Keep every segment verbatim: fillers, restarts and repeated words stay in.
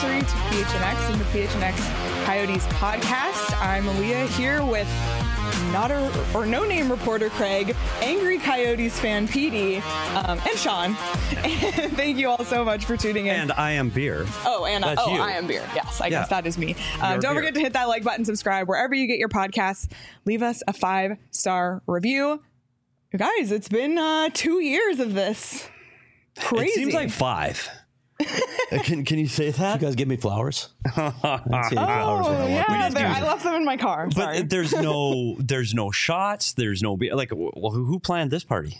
anniversary to P H N X and the P H N X Coyotes podcast. I'm Aaliyah here with not a, or no name reporter Craig, angry Coyotes fan P D, um, and Sean. And thank you all so much for tuning in. And I am Beer. Oh, and That's I, oh, you. I am Beer. Yes, I Yeah. guess that is me. Um, don't Beer. forget to hit that like button, subscribe wherever you get your podcasts. Leave us a five star review. You guys, it's been uh, two years of this. Crazy. It seems like five. Can can you say that? You guys give me flowers. I didn't see any flowers in Oh, a while. yeah, just there- use I it. left them in my car. But Sorry. there's no, there's no shots. There's no be- like. Well, who, who planned this party?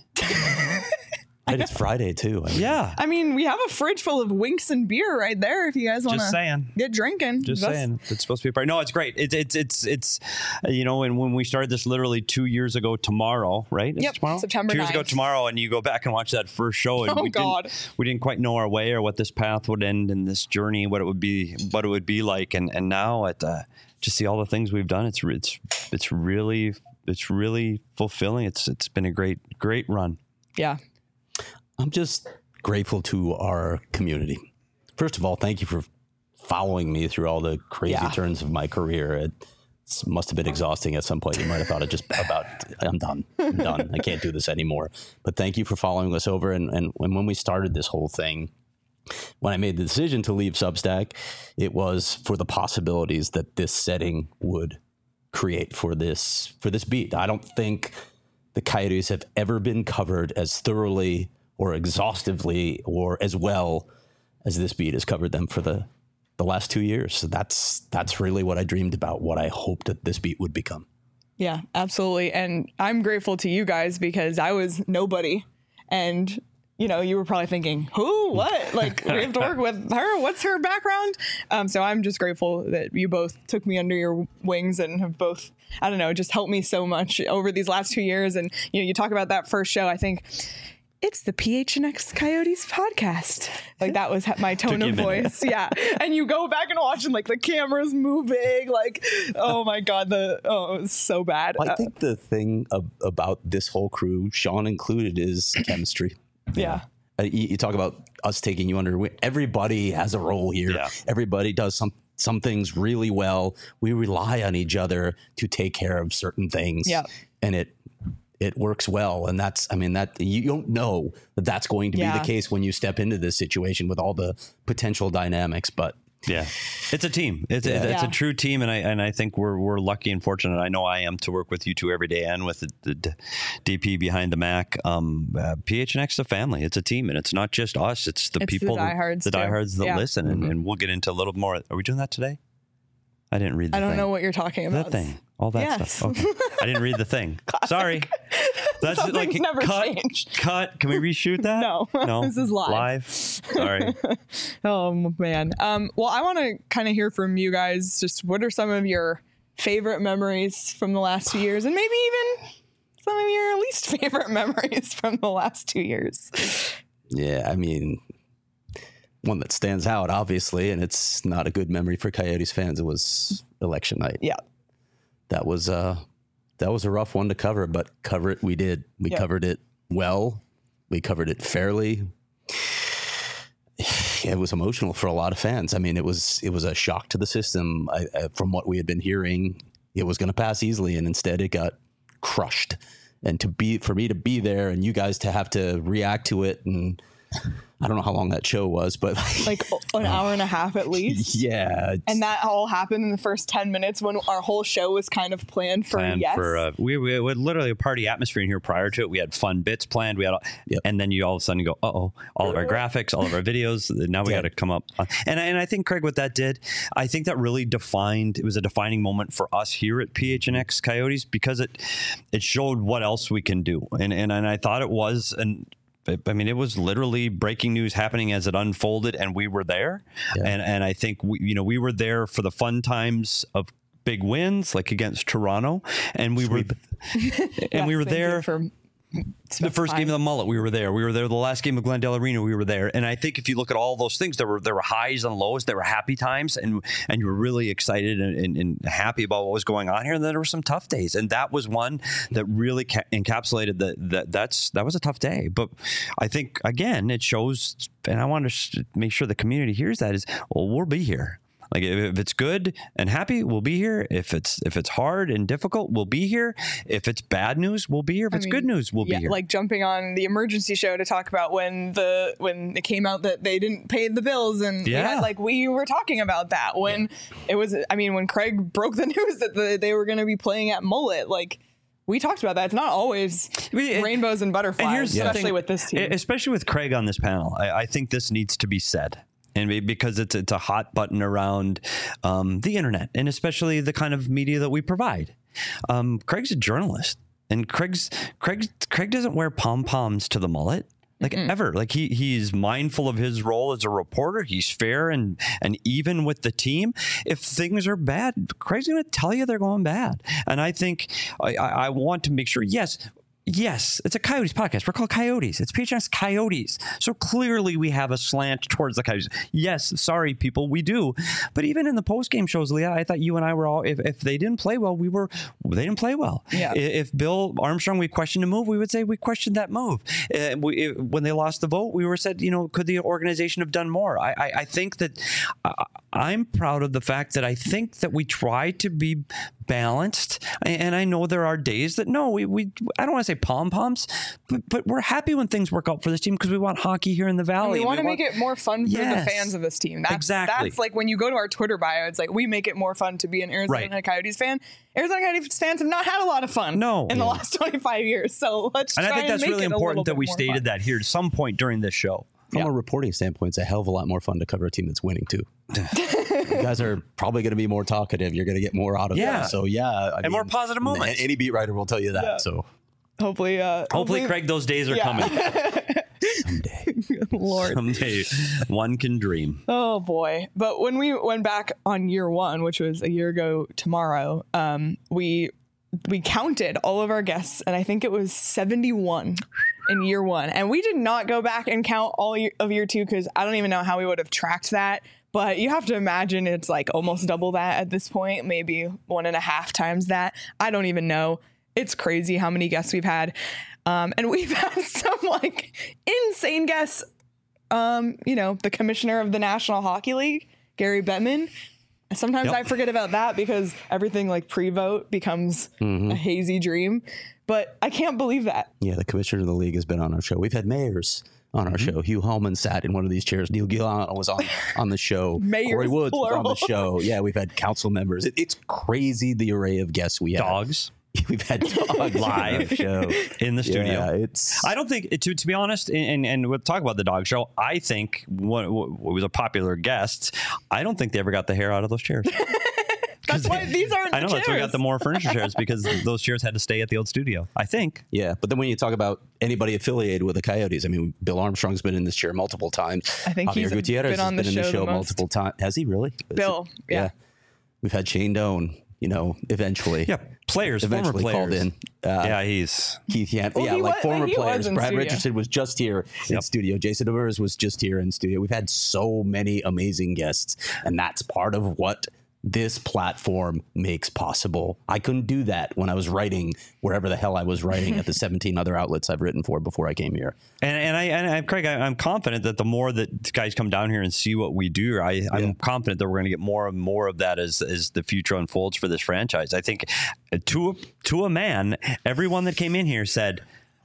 And it's Friday too. I mean, Yeah, I mean, we have a fridge full of Winks and beer right there if you guys want just to saying. get drinking. Just That's- saying, it's supposed to be a party. No, it's great. It's it's it's it's uh, you know, and when we started this literally two years ago tomorrow, right? Is Yep, it tomorrow, September Two years ago ninth. tomorrow, and you go back and watch that first show, and Oh, we God. didn't we didn't quite know our way or what this path would end in this journey, what it would be, what it would be like, and and now at uh, just see all the things we've done. It's it's it's really it's really fulfilling. It's it's been a great great run. Yeah. I'm just grateful to our community. First of all, thank you for following me through all the crazy Yeah. turns of my career. It must have been exhausting at some point. You might have thought it just about, I'm done. I'm done. I can't do this anymore. But thank you for following us over. And, and when we started this whole thing, when I made the decision to leave Substack, it was for the possibilities that this setting would create for this for this beat. I don't think the Coyotes have ever been covered as thoroughly or exhaustively or as well as this beat has covered them for the the last two years. So that's that's really what I dreamed about, what I hoped that this beat would become. Yeah, absolutely. And I'm grateful to you guys because I was nobody. And, you know, you were probably thinking, who, what? Like, we have to work with her. What's her background? Um, so I'm just grateful that you both took me under your wings and have both, I don't know, just helped me so much over these last two years. And, you know, you talk about that first show, I think it's the P H N X Coyotes podcast. Like that was my tone Took you of a minute. voice. Yeah. And you go back and watch and like the camera's moving. Like, oh my God, the, oh, it was so bad. I think the thing ab- about this whole crew, Sean included, is chemistry. Yeah. Uh, you, you talk about us taking you under. your wing. Everybody has a role here. Yeah. Everybody does some some things really well. We rely on each other to take care of certain things. Yeah. And it it works well. And that's, I mean, that you don't know that that's going to Yeah. be the case when you step into this situation with all the potential dynamics. But Yeah, it's a team. It's, Yeah. it's Yeah. a true team, and I and I think we're we're lucky and fortunate. I know I am to work with you two every day, and with the, the d- D P behind the Mac. Um, uh, P H N X is a family. It's a team, and it's not just us. It's the It's the people, that- diehards, the too. diehards that Yeah. listen, and, and we'll get into a little more. Are we doing that today? I didn't read the I don't thing. know what you're talking The about. thing. All that Yes. stuff. Okay. I didn't read the thing. Sorry. That's Something's never cut, changed. Cut. Can we reshoot that? No. No. This is live. Live. Sorry. Oh man. Um, well, I want to kind of hear from you guys. Just what are some of your favorite memories from the last two years, and maybe even some of your least favorite memories from the last two years. yeah, I mean, one that stands out, obviously, and it's not a good memory for Coyotes fans. It was election night. Yeah. That was uh that was a rough one to cover, but cover it we did. We Yep. covered it well. We covered it fairly. It was emotional for a lot of fans. I mean, it was it was a shock to the system. I, I, from what we had been hearing, it was going to pass easily, and instead it got crushed. And to be for me to be there and you guys to have to react to it, and I don't know how long that show was, but Like an hour and a half at least. yeah, And that all happened in the first ten minutes when our whole show was kind of planned for planned yes. for uh, we, we had literally a party atmosphere in here prior to it. We had fun bits planned. We had, all, Yep. and then you all of a sudden go, uh oh, all of our graphics, all of our videos. Now we Yeah. got to come up. Uh, and and I think Craig, what that did, I think that really defined. It was a defining moment for us here at P H N X Coyotes because it it showed what else we can do. And and and I thought it was an. I mean, it was literally breaking news happening as it unfolded, and we were there. Yeah. And and I think we, you know, we were there for the fun times of big wins, like against Toronto, and we were, and Yes, we were thank you there for the first time. game of the mullet, we were there. We were there. The last game of Glendale Arena, we were there. And I think if you look at all those things, there were there were highs and lows. There were happy times, and and you were really excited and, and, and happy about what was going on here. And then there were some tough days, and that was one that really ca- encapsulated that. That that's that was a tough day. But I think again, it shows, and I want to make sure the community hears that is, well, we'll be here. Like if it's good and happy, we'll be here. If it's if it's hard and difficult, we'll be here. If it's bad news, we'll be here. If I it's mean, good news, we'll yeah, be here. Like jumping on the emergency show to talk about when the when it came out that they didn't pay the bills, and Yeah. we had, like we were talking about that when yeah. it was. I mean, when Craig broke the news that the, they were going to be playing at Mullet, like. We talked about that. It's not always I mean, rainbows and butterflies, and here's especially with this team. Especially with Craig on this panel. I, I think this needs to be said. And because it's it's a hot button around um, the internet, and especially the kind of media that we provide. Um, Craig's a journalist, and Craig's Craig Craig doesn't wear pom poms to the mullet. Like mm-mm. ever. Like he he's mindful of his role as a reporter. He's fair and and even with the team. If things are bad, Craig's going to tell you they're going bad. And I think I, I want to make sure, yes, Yes, it's a Coyotes podcast. We're called Coyotes. It's P H N X Coyotes. So clearly we have a slant towards the Coyotes. Yes, sorry, people, we do. But even in the post-game shows, Leah, I thought you and I were all, if, if they didn't play well, we were, they didn't play well. Yeah. If Bill Armstrong, we questioned a move, we would say we questioned that move. Uh, we, when they lost the vote, we were said, you know, could the organization have done more? I, I, I think that uh, I'm proud of the fact that I think that we try to be balanced. And I know there are days that, no, we, we I don't want to say pom-poms, but, but we're happy when things work out for this team because we want hockey here in the Valley. And we want we to want, make it more fun for yes, the fans of this team. That's, exactly. That's like when you go to our Twitter bio, it's like we make it more fun to be an Arizona right. Coyotes fan. Arizona Coyotes fans have not had a lot of fun no. in yeah. the last twenty-five years. So let's and try I think and that's make really it important that we more stated fun. that here at some point during this show. From yeah. a reporting standpoint, it's a hell of a lot more fun to cover a team that's winning, too. You guys are probably going to be more talkative. You're going to get more out of yeah. them. So, yeah. I and mean, more positive moments. Any beat writer will tell you that. Yeah. So Hopefully, uh, hopefully, hopefully, Craig, those days are yeah. coming. Someday. Lord. Someday one can dream. Oh, boy. But when we went back on year one, which was a year ago tomorrow, um, we we counted all of our guests, and I think it was seventy-one in year one. And we did not go back and count all of year two because I don't even know how we would have tracked that. But you have to imagine it's like almost double that at this point, maybe one and a half times that. I don't even know. It's crazy how many guests we've had. Um, and we've had some like insane guests. Um, you know, the commissioner of the National Hockey League, Gary Bettman. Sometimes yep. I forget about that because everything like pre-vote becomes mm-hmm. a hazy dream. But I can't believe that. Yeah, the commissioner of the league has been on our show. We've had mayors on our mm-hmm. show. Hugh Hallman sat in one of these chairs. Neil Gillan was on, on the show. Mayors, Corey Woods plural. was on the show. Yeah, we've had council members. It, it's crazy the array of guests we have. Dogs. We've had dogs live show in the studio. Yeah, it's. I don't think to to be honest, and and we'll talk about the dog show. I think what, what was a popular guest. I don't think they ever got the hair out of those chairs. That's why these aren't. I know the that's why we got the more furniture chairs because those chairs had to stay at the old studio. I think. Yeah, but then when you talk about anybody affiliated with the Coyotes, I mean, Bill Armstrong's been in this chair multiple times. I think Javier he's Gutierrez been on has the been in show, the show the multiple times. Has he really? Bill, yeah. yeah. We've had Shane Doan. You know, eventually. Yeah, players, eventually former players. called in. Uh, yeah, he's Keith Yan- well, yeah, like was, former he players. Brad studio. Richardson was just here in yep. studio. Jason Demers was just here in studio. We've had so many amazing guests, and that's part of what this platform makes possible. I couldn't do that when I was writing wherever the hell I was writing at the seventeen other outlets I've written for before I came here. And, and I, and I, Craig, I, I'm confident that the more that guys come down here and see what we do, I, yeah. I'm confident that we're going to get more and more of that as as the future unfolds for this franchise. I think to to a man, everyone that came in here said,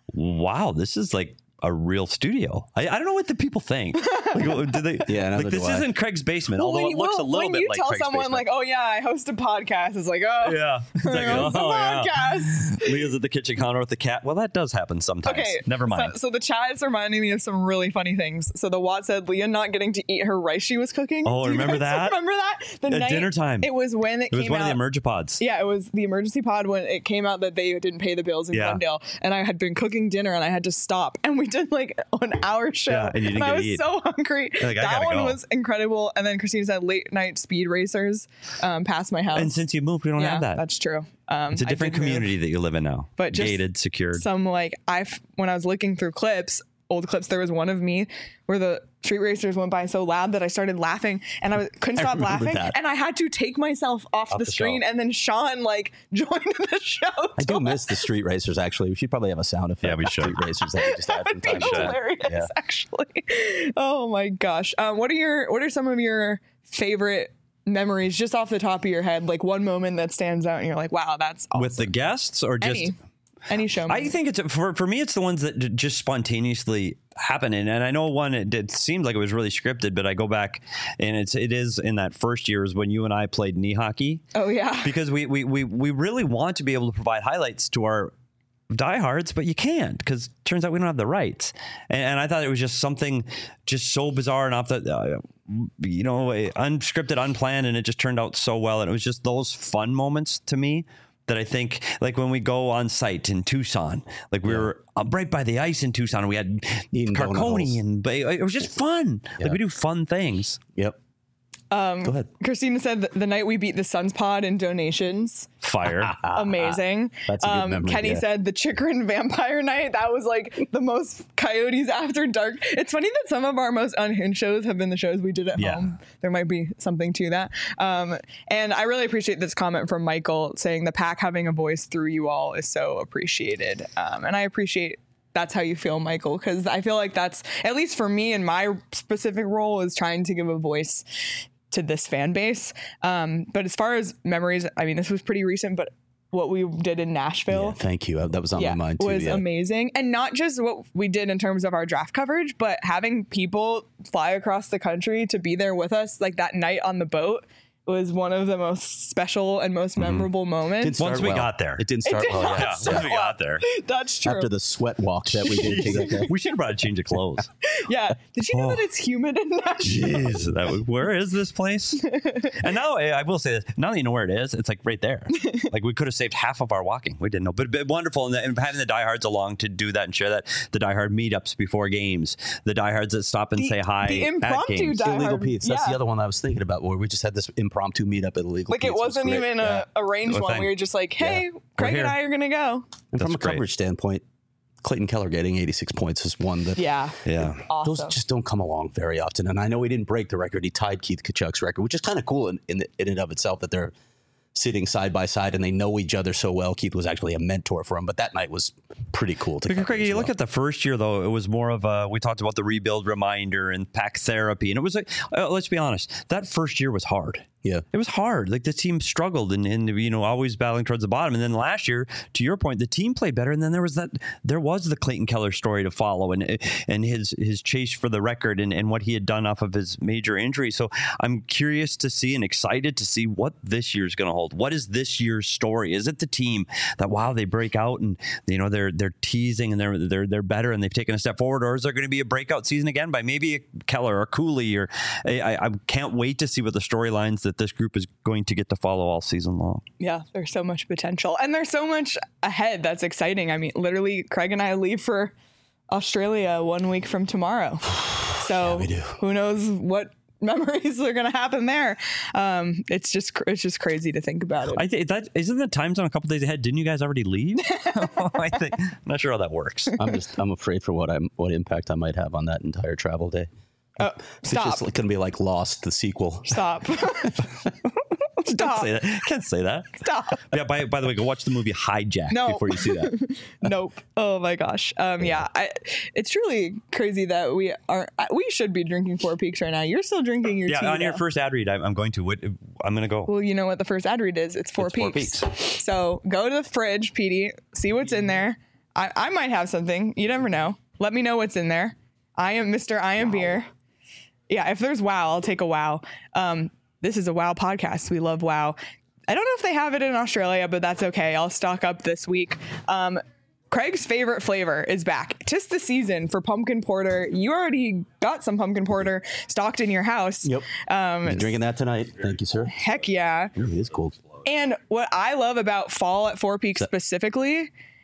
"Wow, this is like a real studio." I, I don't know what the people think. Like, do they, yeah, like this isn't Craig's basement, well, although when, it looks well, a little when bit you like tell Craig's someone basement. like, "Oh yeah, I host a podcast," it's like, "Oh, yeah, it's like, I host oh, a yeah. podcast." Leah's at the kitchen counter with the cat. Well, that does happen sometimes. Okay, never mind. So, so the chat is reminding me of some really funny things. So the Watt said Leah not getting to eat her rice she was cooking. Oh, Do you remember guys that? Remember that? The At night, dinner time. It was when it, it came was one out. of the emergipods. Yeah, it was the emergency pod when it came out that they didn't pay the bills in yeah. Glendale, and I had been cooking dinner and I had to stop, and we did like an hour show, Yeah, and you didn't I get to was eat. so hungry. Like, I that gotta one go. was incredible. And then Christina said late night speed racers um, past my house. And since you moved, we don't yeah, have that. that's true. Um, It's a I different did move, community that you live in now. but just gated, secured. Some like I when I was looking through clips, old clips, there was one of me where the street racers went by so loud that I started laughing, and I was, couldn't I stop remember laughing, that. and I had to take myself off, Off the, the screen, show. and then Sean like joined the show. I do to miss the street racers. Actually, we should probably have a sound effect. Yeah, we for should. Street racers that we just add from That'd time be to time. hilarious, Yeah. actually. Oh my gosh. Um, what are your what are some of your favorite memories just off the top of your head? Like one moment that stands out and you're like, wow, that's awesome. With the guests or just any any show. I think it's for for me. It's the ones that d- just spontaneously happen, and, and I know one. It, it seemed like it was really scripted, but I go back, and it's it is in that first year is when you and I played knee hockey. Oh yeah, because we we we we really want to be able to provide highlights to our diehards, but you can't because turns out we don't have the rights. And, and I thought it was just something just so bizarre and off the, uh, you know, unscripted, unplanned, and it just turned out so well. And it was just those fun moments to me that I think, like when we go on site in Tucson, like we yeah. were right by the ice in Tucson, and we had Eating Carconi, and it was just fun. Yeah. Like we do fun things. Yep. Um, Go ahead. Christina said the, the night we beat the Suns pod in donations. Fire. Amazing. That's a good um, memory, Kenny yeah. said the Chikrin vampire night. That was like the most Coyotes after dark. It's funny that some of our most unhinged shows have been the shows we did at Yeah. home. There might be something to that. Um, and I really appreciate this comment from Michael saying the pack having a voice through you all is so appreciated. Um, and I appreciate that's how you feel, Michael, because I feel like that's, at least for me in my specific role, is trying to give a voice to this fan base. Um, but as far as memories, I mean, this was pretty recent, but what we did in Nashville. Yeah, thank you. That was on yeah, my mind too. was yeah. amazing. And not just what we did in terms of our draft coverage, but having people fly across the country to be there with us, like that night on the boat, was one of the most special and most memorable moments. Didn't start Once we well. got there. It didn't start did well. not Yeah. Yeah, start once we got there. That's true. After the sweat walk that we did to get there. We should have brought a change of clothes. Yeah. Did you know Oh. that it's humid in Nashville? Jeez, that was, where is this place? And now I I will say this: now that you know where it is, it's like right there. Like we could have saved half of our walking. We didn't know, but, but wonderful, and, the, and having the diehards along to do that and share that. The diehard meetups before games, the diehards that stop and The- say hi. the at impromptu games. die- Illegal Diehard, Pete's. That's yeah. the other one I was thinking about, where we just had this impromptu meetup at Illegal Like Pete's. it wasn't was great. even Yeah. a arranged Good one. thing. We were just like, hey, Craig here. and I are going to go. And from That's a great. coverage standpoint, Clayton Keller getting eighty-six points is one that Yeah. Yeah. Awesome. those just don't come along very often. And I know he didn't break the record. He tied Keith Kachuk's record, which is kind of cool in, in, in and of itself that they're sitting side by side and they know each other so well. Keith was actually a mentor for him, but that night was pretty cool to Because cover Craig, as you well. look at the first year though; it was more of a. We talked about the rebuild reminder and pack therapy, and it was like, uh, let's be honest, that first year was hard. Yeah. It was hard. Like the team struggled and, and you know always battling towards the bottom. And then last year, to your point, the team played better. And then there was that there was the Clayton Keller story to follow and and his his chase for the record and, and what he had done off of his major injury. So I'm curious to see and excited to see what this year's going to hold. What is this year's story? Is it the team that wow they break out and you know they're they're teasing and they're they're they're better and they've taken a step forward, or is there going to be a breakout season again by maybe a Keller or Cooley or I, I can't wait to see what the storylines that this group is going to get to follow all season long. Yeah, there's so much potential. And there's so much ahead that's exciting. I mean, literally, Craig and I leave for Australia one week from tomorrow. So we do. Who knows what memories are going to happen there. Um, it's just cr- it's just crazy to think about it. I think that isn't the time zone a couple days ahead. Didn't you guys already leave? I think I'm not sure how that works. I'm just I'm afraid for what I'm what impact I might have on that entire travel day. Oh, It's stop. just going to be like Lost, the sequel. Stop. Don't Stop. say that. Can't say that. Stop. Yeah. By by the way, go watch the movie Hijack No. before you see that. Nope. Oh my gosh. Um, yeah, I, it's truly crazy that we are. We should be drinking Four Peaks right now. You're still drinking your Yeah. tea. On your though. first ad read, I'm, I'm going to. What, I'm going to go. Well, you know what the first ad read is? It's Four It's Four Peaks. So go to the fridge, Petey, see what's in there. I, I might have something. You never know. Let me know what's in there. I am Mister I am beer. Yeah, if there's WoW, I'll take a WoW. Um, this is a WoW podcast. We love WoW. I don't know if they have it in Australia, but that's okay. I'll stock up this week. Um, Craig's favorite flavor is back. 'Tis the season for pumpkin porter. You already got some pumpkin porter stocked in your house. Yep. Um, You drinking that tonight? Thank you, sir. heck yeah. It is cool. And what I love about fall at Four Peaks specifically,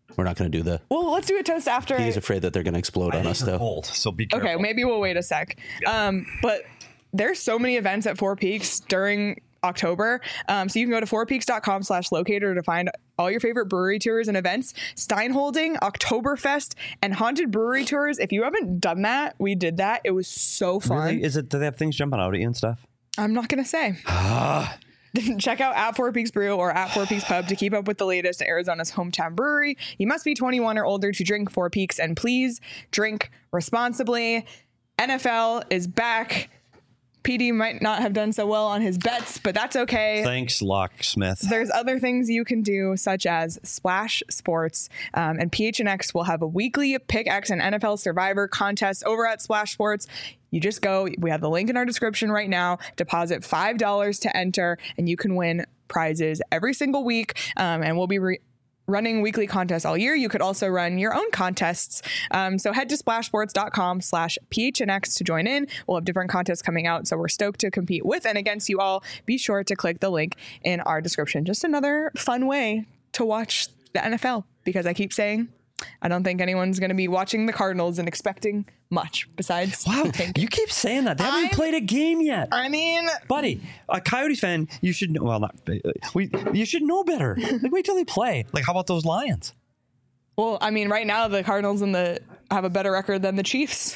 We're not going to do the. Well, let's do a toast after. He's afraid that they're going to explode on us, though. Cold, so be careful. Okay, maybe we'll wait a sec. Um, but there's so many events at Four Peaks during October. Um, so you can go to fourpeaks.com slash locator to find all your favorite brewery tours and events. Steinholding, Oktoberfest, and Haunted Brewery Tours. If you haven't done that, we did that. It was so fun. Really? Is it? Do they have things jumping out at you and stuff? I'm not going to say. Check out at Four Peaks Brew or at Four Peaks Pub to keep up with the latest at Arizona's hometown brewery. You must be twenty-one or older to drink Four Peaks, and please drink responsibly. N F L is back. P D might not have done so well on his bets, but that's okay. Thanks, Locksmith. There's other things you can do, such as Splash Sports, um, and P H N X will have a weekly Pick X and N F L Survivor contest over at Splash Sports. You just go, we have the link in our description right now, deposit five dollars to enter, and you can win prizes every single week, um, and we'll be re- running weekly contests all year. You could also run your own contests. Um, so head to splashsports.com slash PHNX to join in. We'll have different contests coming out. So we're stoked to compete with and against you all. Be sure to click the link in our description. Just another fun way to watch the N F L, because I keep saying, I don't think anyone's going to be watching the Cardinals and expecting much besides. Wow, tanking. you keep saying that. They haven't I'm- played a game yet. I mean, Buddy, a Coyotes fan, you should know. Well, not we. You should know better. Like, wait till they play. Like, how about those Lions? well, I mean, right now the Cardinals and the have a better record than the Chiefs.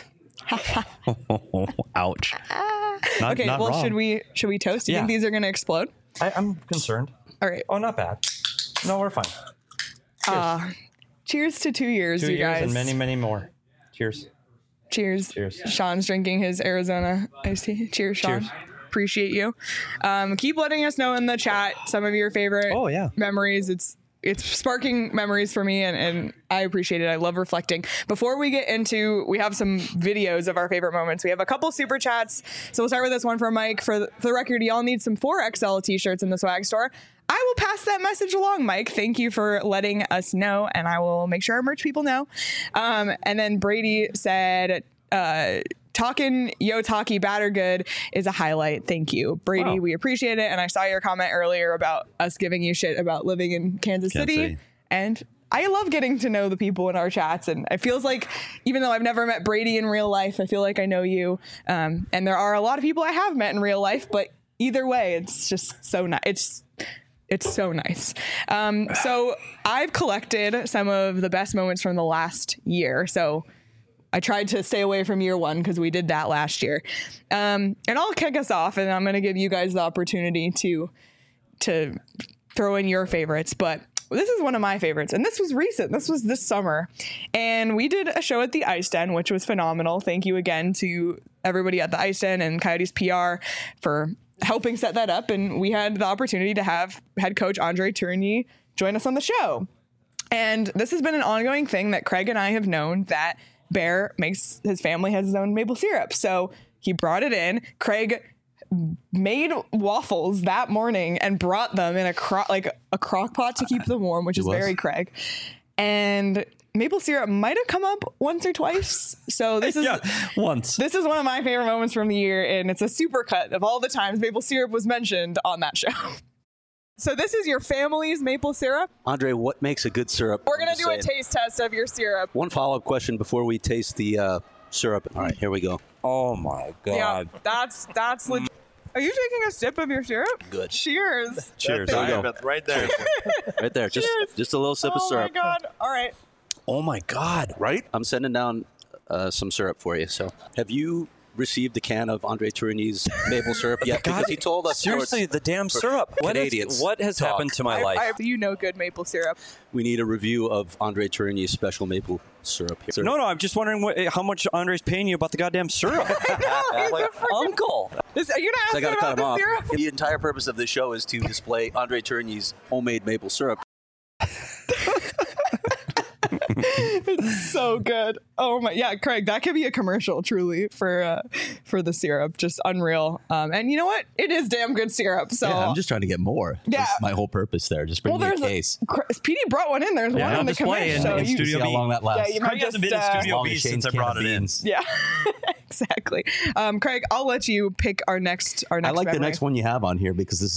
Ouch. Not, Okay, not well, wrong. should we should we toast? Do you Yeah. think these are going to explode? I, I'm concerned. All right. Oh, not bad. No, we're fine. Uh, cheers to two years, Two you years guys. and many, many more. Cheers. Cheers. Cheers. Sean's drinking his Arizona iced tea. Cheers, Sean. Cheers. Appreciate you. Um, keep letting us know in the chat some of your favorite Oh, yeah. memories. It's it's sparking memories for me, and, and I appreciate it. I love reflecting. Before we get into, we have some videos of our favorite moments. We have a couple super chats. So we'll start with this one from Mike. For the, for the record, y'all need some four X L t-shirts in the swag store. I will pass that message along, Mike. Thank you for letting us know, and I will make sure our merch people know. Um, and then Brady said, uh, talking Yotaki batter good is a highlight. Thank you, Brady. Wow. We appreciate it. And I saw your comment earlier about us giving you shit about living in Kansas, Kansas City. City. And I love getting to know the people in our chats. And it feels like, even though I've never met Brady in real life, I feel like I know you. Um, and there are a lot of people I have met in real life, but either way, it's just so nice. It's It's so nice. Um, so I've collected some of the best moments from the last year. So I tried to stay away from year one because we did that last year. Um, and I'll kick us off, and I'm going to give you guys the opportunity to to throw in your favorites. But this is one of my favorites, and this was recent. This was this summer. And we did a show at the Ice Den, which was phenomenal. Thank you again to everybody at the Ice Den and Coyotes P R for helping set that up. And we had the opportunity to have head coach Andre Tourigny join us on the show. And this has been an ongoing thing that Craig and I have known, that Bear makes, his family has his own maple syrup. So he brought it in. Craig made waffles that morning and brought them in a cro- like a crock pot to keep them warm, which is was. very Craig. And maple syrup might have come up once or twice. So this is Yeah, once. this is one of my favorite moments from the year, and it's a super cut of all the times maple syrup was mentioned on that show. So this is your family's maple syrup. Andre, what makes a good syrup? We're gonna I'm do a just saying. taste test of your syrup. One follow-up question before we taste the uh, syrup. All right, here we go. Oh my Yeah, God. that's that's legit. Are you taking a sip of your syrup? Good. Cheers. Cheers. There we go. Diamond right there. Right there. Just Cheers. just a little sip of Oh my syrup. god. All right. Oh my God. Right? I'm sending down uh, some syrup for you. So, have you received a can of Andre Tourigny's maple syrup yet? God, Because he told us seriously, the damn syrup. What, Canadians is, what has talk. happened to my I, life? I, you know good maple syrup. we need a review of Andre Tourigny's special maple syrup. Here. no, no, I'm just wondering what, how much Andre's paying you about the goddamn syrup. He's a like, freaking- uncle. This, are you gonna ask So I me got to about cut him the off. syrup? The entire purpose of this show is to display Andre Tourigny's homemade maple syrup. It's so good. Oh my, yeah, Craig, that could be a commercial, truly, for uh, for the syrup. Just unreal. Um, and you know what? It is damn good syrup. So Yeah, I'm just trying to get more. Yeah. That's my whole purpose there. Just bring well, me a there's case. a, P D brought one in. There's Yeah, one on in the display commercial. in- So in you, Studio See how B. long that lasts. Yeah, you Craig might hasn't just, been in uh, Studio Long B as since Shane's I can brought of it in. beans. Yeah, exactly. Um, Craig, I'll let you pick our next our I next. like the memory. next one you have on here because this is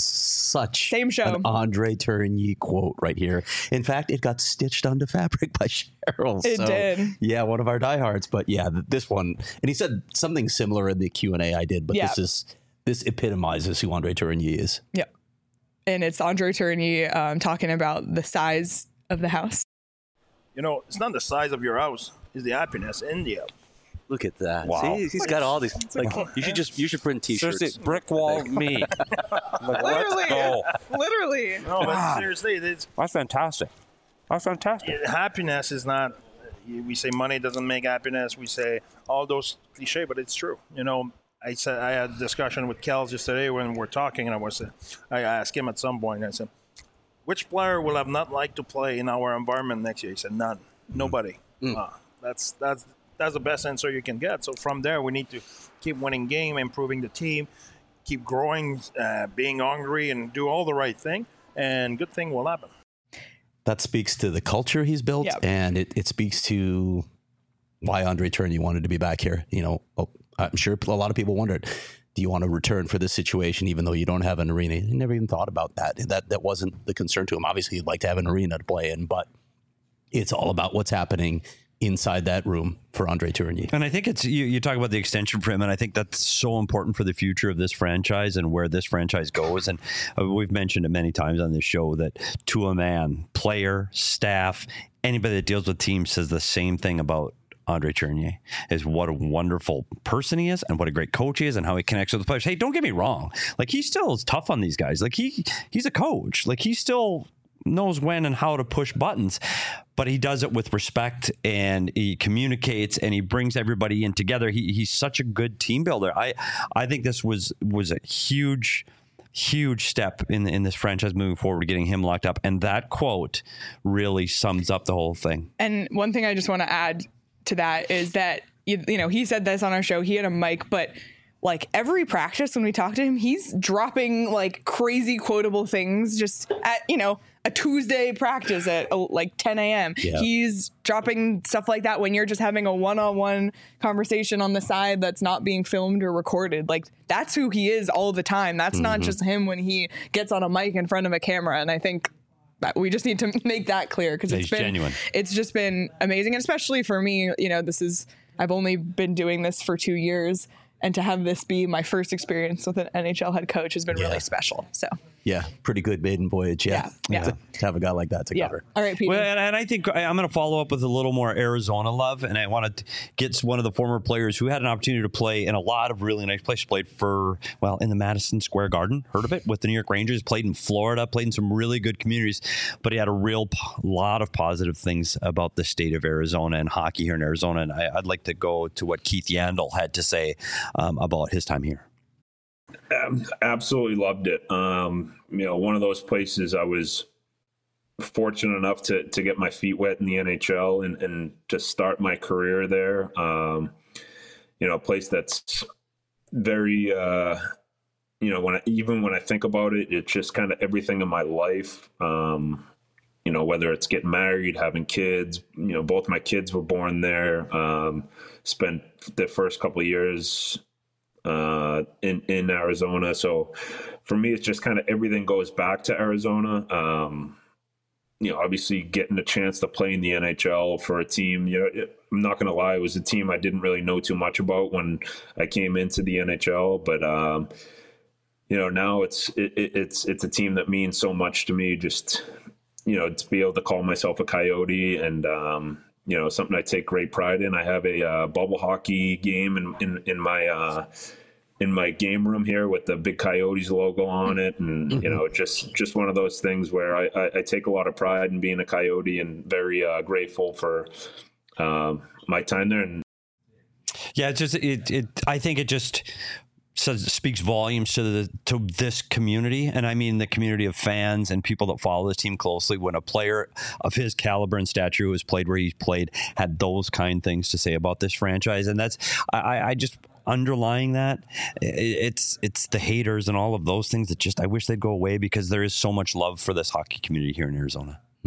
such Same show. an Andre Tourigny quote right here. In fact, it got stitched onto fabric by Cheryl. It so, did. Yeah, one of our diehards. But yeah, th- this one, and he said something similar in the Q and A I did, but Yeah. this is this epitomizes who Andre Tourigny is. Yeah. And it's Andre Tourigny um, talking about the size of the house. You know, it's not the size of your house; it's the happiness in the house. Look at that. Wow. See, he's got all these. Like, you should just you should print T-shirts. Seriously, brick wall me. Like, Literally. let's go. Literally. No, but seriously, it's, That's fantastic. That's fantastic. happiness is not. We say money doesn't make happiness. We say all those cliche, but it's true. You know, I said I had a discussion with Kels yesterday when we're talking, and I was I asked him at some point. I said, "Which player will have not liked to play in our environment next year?" He said, "None, nobody." Mm. Uh, that's that's that's the best answer you can get. So from there, we need to keep winning game, improving the team, keep growing, uh, being hungry, and do all the right thing, and good thing will happen. That speaks to the culture he's built, Yeah. and it, it speaks to why Andre Tourigny wanted to be back here. You know, oh, I'm sure a lot of people wondered, do you want to return for this situation even though you don't have an arena? He never even thought about that. That that wasn't the concern to him. Obviously, he'd like to have an arena to play in, but it's all about what's happening inside that room for Andre Tourigny. And I think it's you, you talk about the extension for him, and I think that's so important for the future of this franchise and where this franchise goes. And uh, we've mentioned it many times on this show that to a man, player, staff, anybody that deals with teams says the same thing about Andre Tourigny, is what a wonderful person he is and what a great coach he is and how he connects with the players. Hey, don't get me wrong. Like, he still is tough on these guys. Like, he he's a coach. Like, he still knows when and how to push buttons, but he does it with respect, and he communicates, and he brings everybody in together. He, he's such a good team builder. I I think this was was a huge, huge step in in this franchise moving forward, getting him locked up. And that quote really sums up the whole thing. And one thing I just want to add to that is that, you, you know, he said this on our show, he had a mic, but like every practice when we talk to him, he's dropping like crazy quotable things just at, you know, a Tuesday practice at oh, like ten a.m. Yeah. He's dropping stuff like that when you're just having a one-on-one conversation on the side that's not being filmed or recorded. Like, that's who he is all the time. That's mm-hmm. not just him when he gets on a mic in front of a camera. And I think that we just need to make that clear, because it's been genuine. It's just been amazing. And especially for me, you know, this is, I've only been doing this for two years. And to have this be my first experience with an N H L head coach has been Yeah. really special. So Yeah, pretty good maiden voyage. Yeah, Yeah, yeah. To, to have a guy like that to yeah. cover. All right, Peter. Well, and, and I think I, I'm going to follow up with a little more Arizona love, and I want to get one of the former players who had an opportunity to play in a lot of really nice places. Played for, well, in the Madison Square Garden, heard of it, with the New York Rangers, played in Florida, played in some really good communities, but he had a real po- lot of positive things about the state of Arizona and hockey here in Arizona, and I, I'd like to go to what Keith Yandel had to say um, about his time here. Um, absolutely loved it. Um, you know, one of those places I was fortunate enough to to get my feet wet in the N H L and, and to start my career there. Um, you know, a place that's very, uh, you know, when I, even when I think about it, it's just kind of everything in my life. Um, you know, whether it's getting married, having kids, you know, both my kids were born there. Um, spent the first couple of years uh, in, in Arizona. So for me, it's just kind of everything goes back to Arizona. Um, you know, obviously getting a chance to play in the N H L for a team, you know, it, I'm not going to lie, it was a team I didn't really know too much about when I came into the N H L, but, um, you know, now it's, it, it's, it's a team that means so much to me. Just, you know, to be able to call myself a Coyote, and, um, you know, something I take great pride in. I have a uh, bubble hockey game in, in, in my, uh, in my game room here with the big Coyotes logo on it. And, mm-hmm. you know, just, just one of those things where I, I, I take a lot of pride in being a Coyote, and very uh, grateful for um, my time there. And yeah, it's just, it, it, I think it just says, speaks volumes to the, to this community. And I mean, the community of fans and people that follow this team closely, when a player of his caliber and stature who has played where he's played had those kind things to say about this franchise. And that's, I, I just, underlying that, it's it's the haters and all of those things that just I wish they'd go away, because there is so much love for this hockey community here in Arizona. Hmm.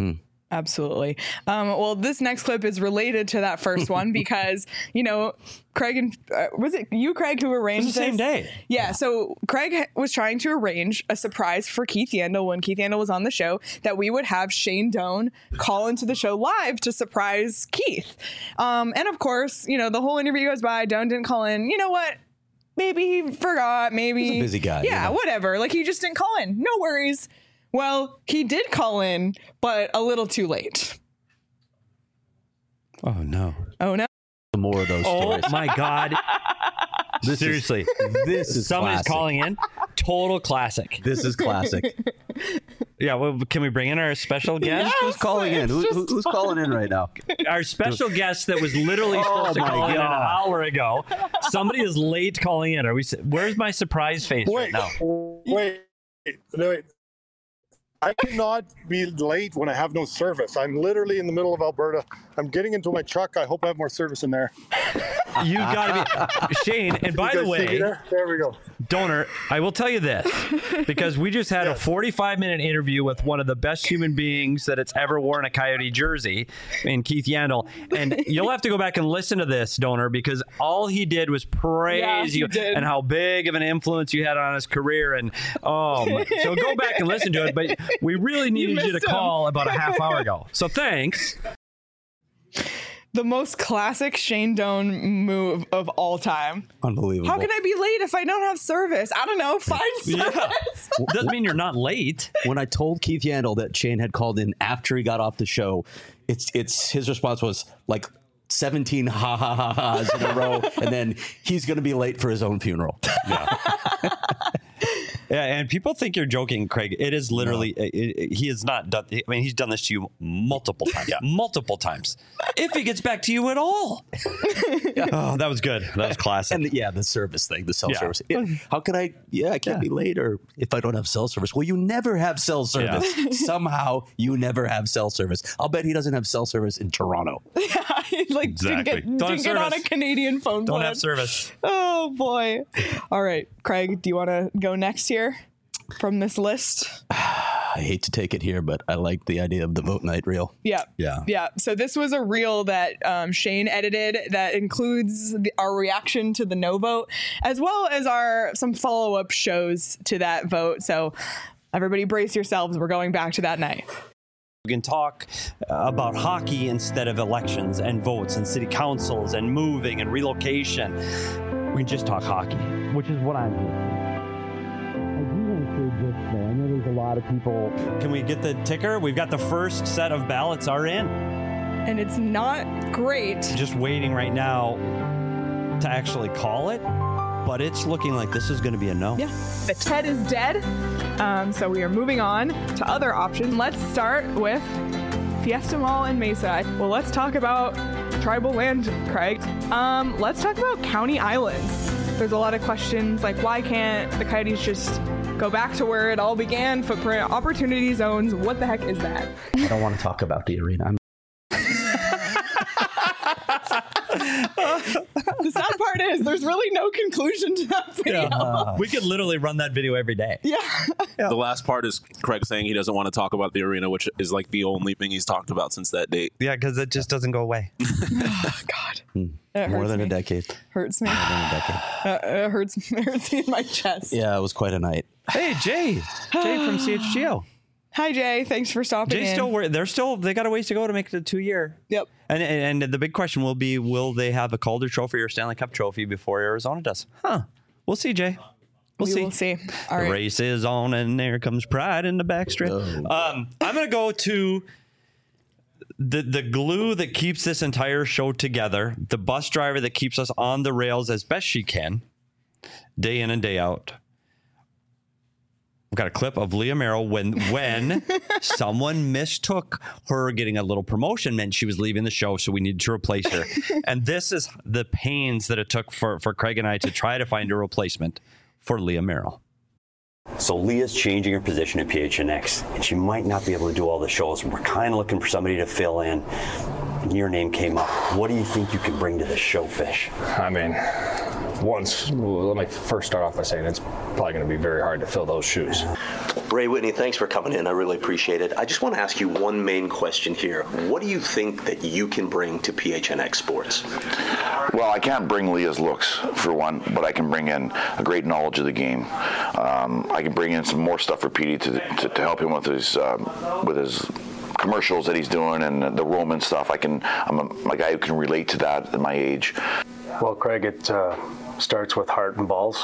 Absolutely. Um, well, this next clip is related to that first one because, you know, Craig and uh, was it you, Craig, who arranged It was the same this? day. Yeah. So Craig ha- was trying to arrange a surprise for Keith Yandel when Keith Yandel was on the show that we would have Shane Doan call into the show live to surprise Keith. Um, and of course, you know, the whole interview goes by. Doan didn't call in. You know what? Maybe he forgot. Maybe He's a busy guy. Yeah, you know? whatever. Like he just didn't call in. No worries. Well, he did call in, but a little too late. Oh no. Oh no. More of those Oh stories. my God. This Seriously. is, this is Somebody's classic. calling in. Total classic. This is classic. Yeah, well, can we bring in our special guest? Who's calling in? Who, who- who's calling in right now? Our special guest that was literally Oh, supposed to my call in an God. hour ago. Somebody is late calling in. Are we? Where's my surprise face right Wait, now? wait, wait. I cannot be late when I have no service. I'm literally in the middle of Alberta. I'm getting into my truck. I hope I have more service in there. You got to be Shane. And by You the guys see me way, there? There we go. Donor, I will tell you this because we just had a forty-five minute interview with one of the best human beings that it's ever worn a Coyote jersey in Keith Yandel. And you'll have to go back and listen to this, Donor, because all he did was praise Yeah, you he did. and how big of an influence you had on his career. And oh, my- so go back and listen to it. But we really needed you, to missed him. call about a half hour ago. So thanks. The most classic Shane Doan move of all time. Unbelievable. How can I be late if I don't have service? I don't know. Find service. Doesn't mean you're not late. When I told Keith Yandel that Shane had called in after he got off the show, it's it's his response was like seventeen ha ha ha ha's in a row, and then he's going to be late for his own funeral. Yeah. Yeah, and people think you're joking, Craig. It is literally, it, it, he has not done, I mean, he's done this to you multiple times. Yeah. Multiple times. If he gets back to you at all. Oh, that was good. That was classic. And the, yeah, the service thing, the cell Yeah. service. Yeah, how can I? Yeah, I can't Yeah. be late, or if I don't have cell service. Well, you never have cell service. Somehow you never have cell service. I'll bet he doesn't have cell service in Toronto. like Exactly. didn't get, Don't have didn't get on a service. Canadian phone Don't plan. have service. Oh boy. All right, Craig, do you want to go next here from this list? I hate to take it here, but I like the idea of the vote night reel. Yeah. Yeah. Yeah. So this was a reel that um, Shane edited that includes the, our reaction to the no vote, as well as our some follow up shows to that vote. So everybody brace yourselves. We're going back to that night. We can talk uh, about hockey instead of elections and votes and city councils and moving and relocation. We can just talk hockey, which is what I'm here for. I do want to say this, though. I know there's a lot of people. Can we get the ticker? We've got the first set of ballots are in. And it's not great. Just waiting right now to actually call it, but it's looking like this is going to be a no. Yeah. The Ted is dead. Um, so we are moving on to other options. Let's start with Fiesta Mall in Mesa. Well, let's talk about tribal land, Craig. Um, let's talk about county islands. There's a lot of questions like, why can't the Coyotes just go back to where it all began? Footprint, opportunity zones. What the heck is that? I don't want to talk about the arena. I'm The sad part is there's really no conclusion to that video. Yeah. We could literally run that video every day. The last part is Craig saying he doesn't want to talk about the arena, which is like the only thing he's talked about since that date. Yeah, because it just doesn't go away. Oh, God. It more hurts than me. a decade. Hurts me. More than a decade. Uh, it hurts, it hurts me in my chest. Yeah, it was quite a night. Hey, Jay. Jay from C H G O. Hi, Jay. Thanks for stopping Jay's in. still wor- they're still they got a ways to go to make it a two year. Yep. And, and and the big question will be, will they have a Calder Trophy or Stanley Cup Trophy before Arizona does? Huh. We'll see, Jay. We'll we see. will see. All the right. race is on, and there comes pride in the backstretch. Oh. Um, I'm gonna go to the the glue that keeps this entire show together. The bus driver that keeps us on the rails as best she can, day in and day out. We've got a clip of Leah Merrill when when someone mistook her getting a little promotion meant she was leaving the show, so we needed to replace her. And this is the pains that it took for, for Craig and I to try to find a replacement for Leah Merrill. So Leah's changing her position at P H N X, and she might not be able to do all the shows. We're kind of looking for somebody to fill in. And your name came up. What do you think you can bring to the show, Fish? I mean, once, well, let me first start off by saying it's probably going to be very hard to fill those shoes. Ray Whitney, thanks for coming in. I really appreciate it. I just want to ask you one main question here. What do you think that you can bring to P H N X Sports? Well, I can't bring Leah's looks, for one, but I can bring in a great knowledge of the game. Um, I can bring in some more stuff for Petey to, to, to help him with his um, with his commercials that he's doing and the Roman stuff. I can, I'm a, a guy who can relate to that at my age. Well, Craig, it uh, starts with heart and balls,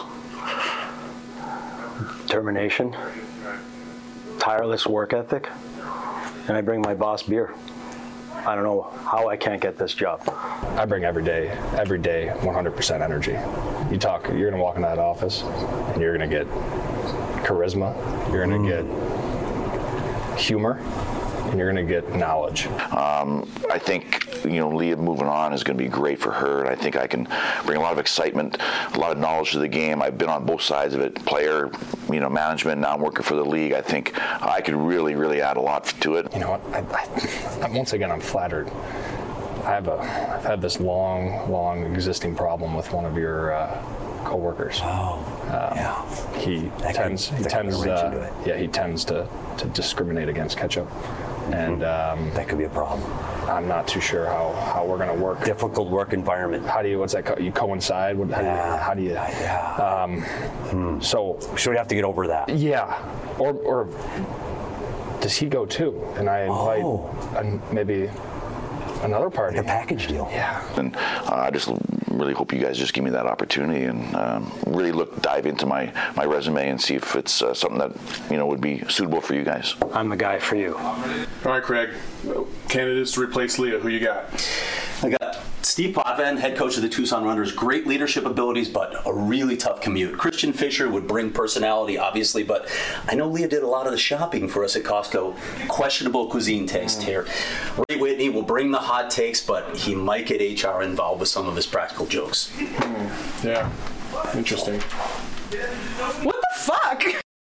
determination, tireless work ethic, and I bring my boss beer. I don't know how I can't get this job. I bring every day, every day, one hundred percent energy. You talk, you're gonna walk into that office and you're gonna get charisma, you're gonna mm. get humor, and you're going to get knowledge. Um, I think, you know, Leah moving on is going to be great for her, and I think I can bring a lot of excitement, a lot of knowledge to the game. I've been on both sides of it, player, you know, management. Now I'm working for the league. I think I could really, really add a lot to it. You know what? I, I, once again, I'm flattered. I have a, I've had this long, long existing problem with one of your uh, co-workers. Oh, um, yeah. He that tends, could, he that tends, could uh, yeah, he tends to, to discriminate against ketchup, mm-hmm. and um, that could be a problem. I'm not too sure how, how we're going to work. Difficult work environment. How do you? What's that? Co- you coincide? What, how, yeah. how do you? Yeah. Um, hmm. So should we have to get over that? Yeah. Or or does he go too? And I invite oh. an, maybe another party. Like a package deal. Yeah. And uh, I just really hope you guys just give me that opportunity and um, really look dive into my, my resume and see if it's uh, something that, you know, would be suitable for you guys. I'm the guy for you. All right, Craig. Candidates to replace Leah. Who you got? I got Steve Potvin, head coach of the Tucson Runners. Great leadership abilities, but a really tough commute. Christian Fisher would bring personality, obviously, but I know Leah did a lot of the shopping for us at Costco. Questionable cuisine taste here. Ray Whitney will bring the hot takes, but he might get H R involved with some of his practical jokes. Mm, yeah, interesting. What the fuck?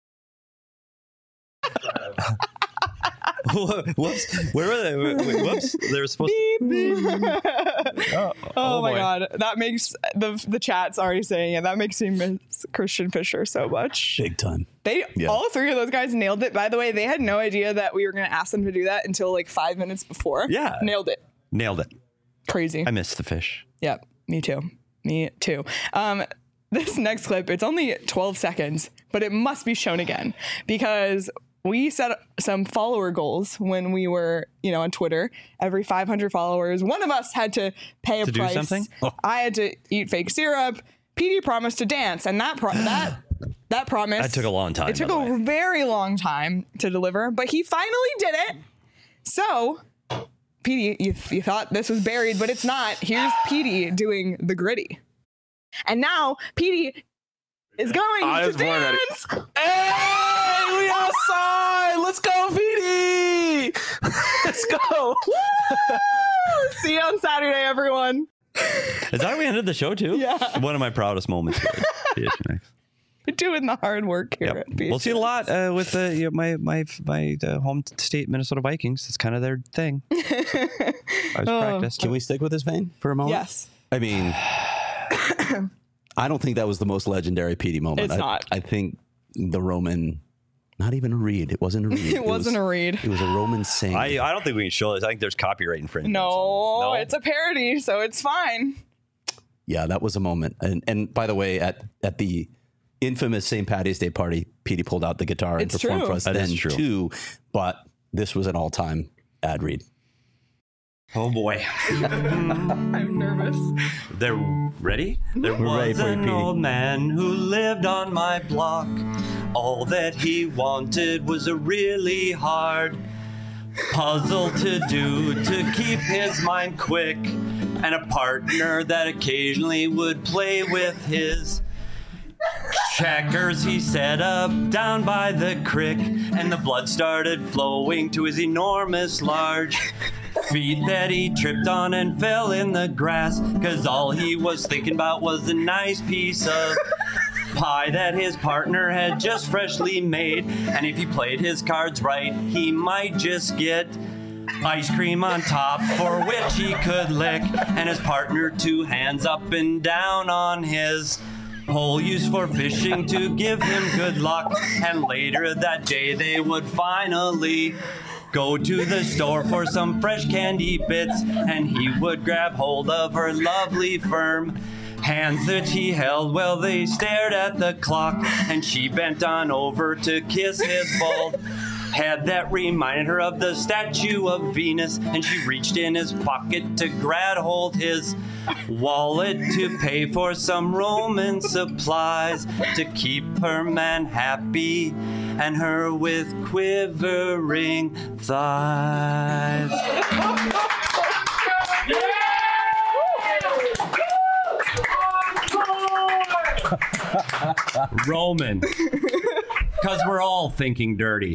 Whoops! Where were they? Whoops! They were supposed to. oh, oh, oh my boy. God, that makes the the chat's already saying it. That makes me miss Christian Fisher so much. Big time. They yeah. all three of those guys nailed it. By the way, they had no idea that we were going to ask them to do that until like five minutes before. Yeah, nailed it. Nailed it. Crazy. I missed the fish. Yep, me too. Me too. Um, this next clip, it's only twelve seconds, but it must be shown again because we set some follower goals when we were, you know, on Twitter. Every five hundred followers, one of us had to pay a to price. Do something? Oh. I had to eat fake syrup. P D promised to dance, and that pro- that that promise that took a long time. It took a very long time to deliver, but he finally did it. So, P D, you, you thought this was buried, but it's not. Here's P D doing the gritty, and now P D is going I to dance. Hey, we outside! Let's go, P D! Let's go! See you on Saturday, everyone. Is that how we ended the show too? Yeah. One of my proudest moments here at P H N X. We're doing the hard work here. Yep. At P H N X. We'll see a lot uh, with the you know, my my my uh, home state Minnesota Vikings. It's kind of their thing. I was oh. practiced. Can we stick with this vein for a moment? Yes. I mean, I don't think that was the most legendary P D moment. It's I, not. I think the Roman. Not even a read. It wasn't a read. it, it wasn't was, a read. It was a Roman sing. I, I don't think we can show this. I think there's copyright infringement. No, no, it's a parody, so it's fine. Yeah, that was a moment. And and by the way, at at the infamous Saint Patty's Day party, P D pulled out the guitar and it's performed true. for us that then true. too. But this was an all-time ad read. Oh boy. I'm nervous. They're ready? There We're was ready for an you, old man who lived on my block. All that he wanted was a really hard puzzle to do to keep his mind quick, and a partner that occasionally would play with his checkers. He set up down by the creek, and the blood started flowing to his enormous large feet that he tripped on and fell in the grass, cause all he was thinking about was a nice piece of pie that his partner had just freshly made, and if he played his cards right, he might just get ice cream on top for which he could lick, and his partner two hands up and down on his pole used for fishing to give him good luck. And later that day they would finally go to the store for some fresh candy bits, and he would grab hold of her lovely firm hands that he held while they stared at the clock, and she bent on over to kiss his bald head that reminded her of the statue of Venus, and she reached in his pocket to grab hold his wallet to pay for some Roman supplies to keep her man happy and her with quivering thighs. Roman, because we're all thinking dirty.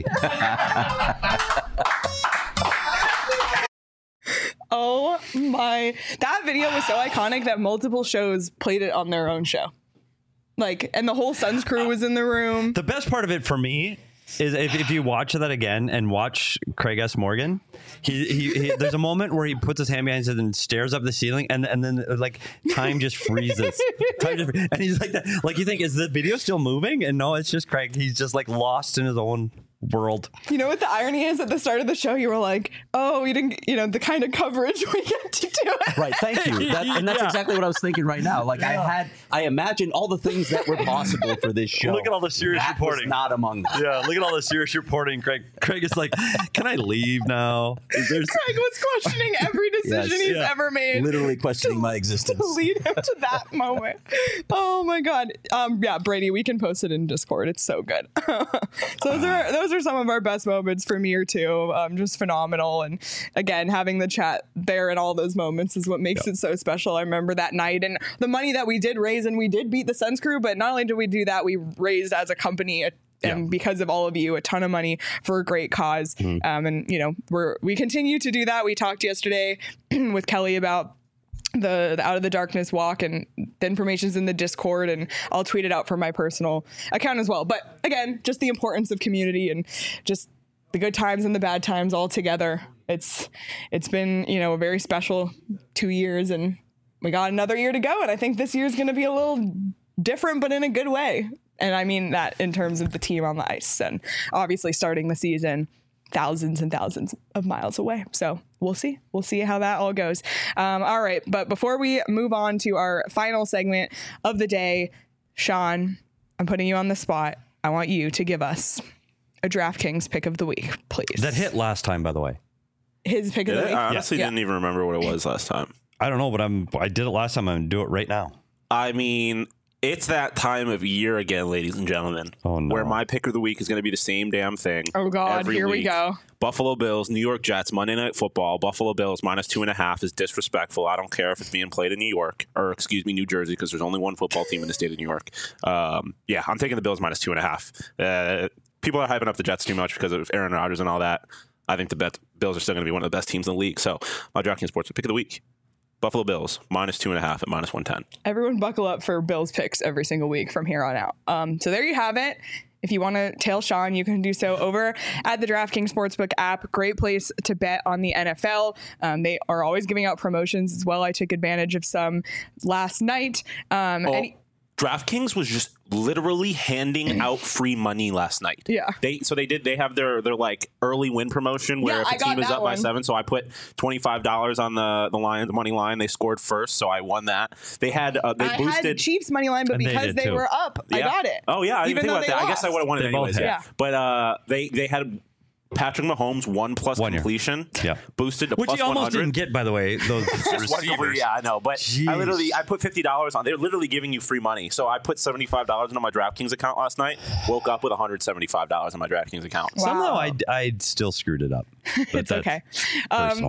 Oh my, that video was so iconic that multiple shows played it on their own show. Like, and the whole Suns crew was in the room. The best part of it for me is if, if you watch that again and watch Craig S. Morgan, he, he, he there's a moment where he puts his hand behind his head and stares up the ceiling, and and then like time just freezes. Time just, and he's like that, like you think, is the video still moving? And no, it's just Craig. He's just like lost in his own world. You know what the irony is? At the start of the show, you were like, "Oh, we didn't, you know, the kind of coverage we get to do." Right. Thank you. That, and that's Yeah. exactly what I was thinking right now. Like I had, I imagined all the things that were possible for this show. Look at all the serious that reporting. Was not among them. Yeah, look at all the serious reporting. Craig, Craig is like, "Can I leave now?" Is there Craig was questioning every decision Yes. he's Yeah. ever made. Literally questioning my existence. To lead him to that moment. Oh my god. Um, yeah, Brady, we can post it in Discord. It's so good. So those are those are some of our best moments for me or two. Um, just phenomenal. And again, having the chat there in all those moments is what makes Yep. it so special. I remember that night and the money that we did raise, and we did beat the Suns crew, but not only did we do that, we raised as a company a and because of all of you, a ton of money for a great cause. Mm-hmm. Um, and you know, we're we continue to do that. We talked yesterday with Kelly about the, the Out of the Darkness walk, and the information's in the Discord, and I'll tweet it out from my personal account as well. But again, just the importance of community and just the good times and the bad times all together. It's it's been, you know, a very special two years, and we got another year to go. And I think this year's going to be a little different, but in a good way. And I mean that in terms of the team on the ice, and obviously starting the season thousands and thousands of miles away. So we'll see. We'll see how that all goes. Um, all right. But before we move on to our final segment of the day, Sean, I'm putting you on the spot. I want you to give us a DraftKings pick of the week, please. That hit last time, by the way. His pick of Did the it? week. I honestly Yeah. didn't even remember what it was last time. I don't know, but I'm. I did it last time. I'm gonna do it right now. I mean, it's that time of year again, ladies and gentlemen, oh, no. where my pick of the week is going to be the same damn thing. Oh, God, every here we week. go. Buffalo Bills, New York Jets, Monday Night Football. Buffalo Bills minus two and a half is disrespectful. I don't care if it's being played in New York, or excuse me, New Jersey, because there's only one football team in the state of New York. Um, yeah, I'm taking the Bills minus two and a half. Uh, people are hyping up the Jets too much because of Aaron Rodgers and all that. I think the bet- Bills are still going to be one of the best teams in the league. So my DraftKings Sports pick of the week. Buffalo Bills, minus two and a half at minus one ten. Everyone buckle up for Bills picks every single week from here on out. Um, so there you have it. If you want to tail Sean, you can do so over at the DraftKings Sportsbook app. Great place to bet on the N F L. Um, they are always giving out promotions as well. I took advantage of some last night. Um, Oh, any- DraftKings was just literally handing out free money last night. Yeah. They so they did they have their their like early win promotion where Yeah, if I a got team is that up by one. seven, so I put twenty five dollars on the the line the money line. They scored first, so I won that. They had uh, they I boosted had Chiefs money line, but And they because did they, too. were up, I Yeah. got it. Oh yeah, I didn't Even think though about they that. I guess I lost. would have won it They both anyways. hit. Yeah. Yeah. But uh, they they had Patrick Mahomes one plus One year. completion. Yeah. Boosted to Which plus he almost one hundred. didn't get, by the way. Those Just one over- receivers. yeah, I know. But Jeez. I literally I put fifty dollars on. They're literally giving you free money. So I put seventy five dollars into my DraftKings account last night. Woke up with one hundred seventy five dollars in my DraftKings account. Wow. Somehow I I still screwed it up. But It's that's okay. Um, personal.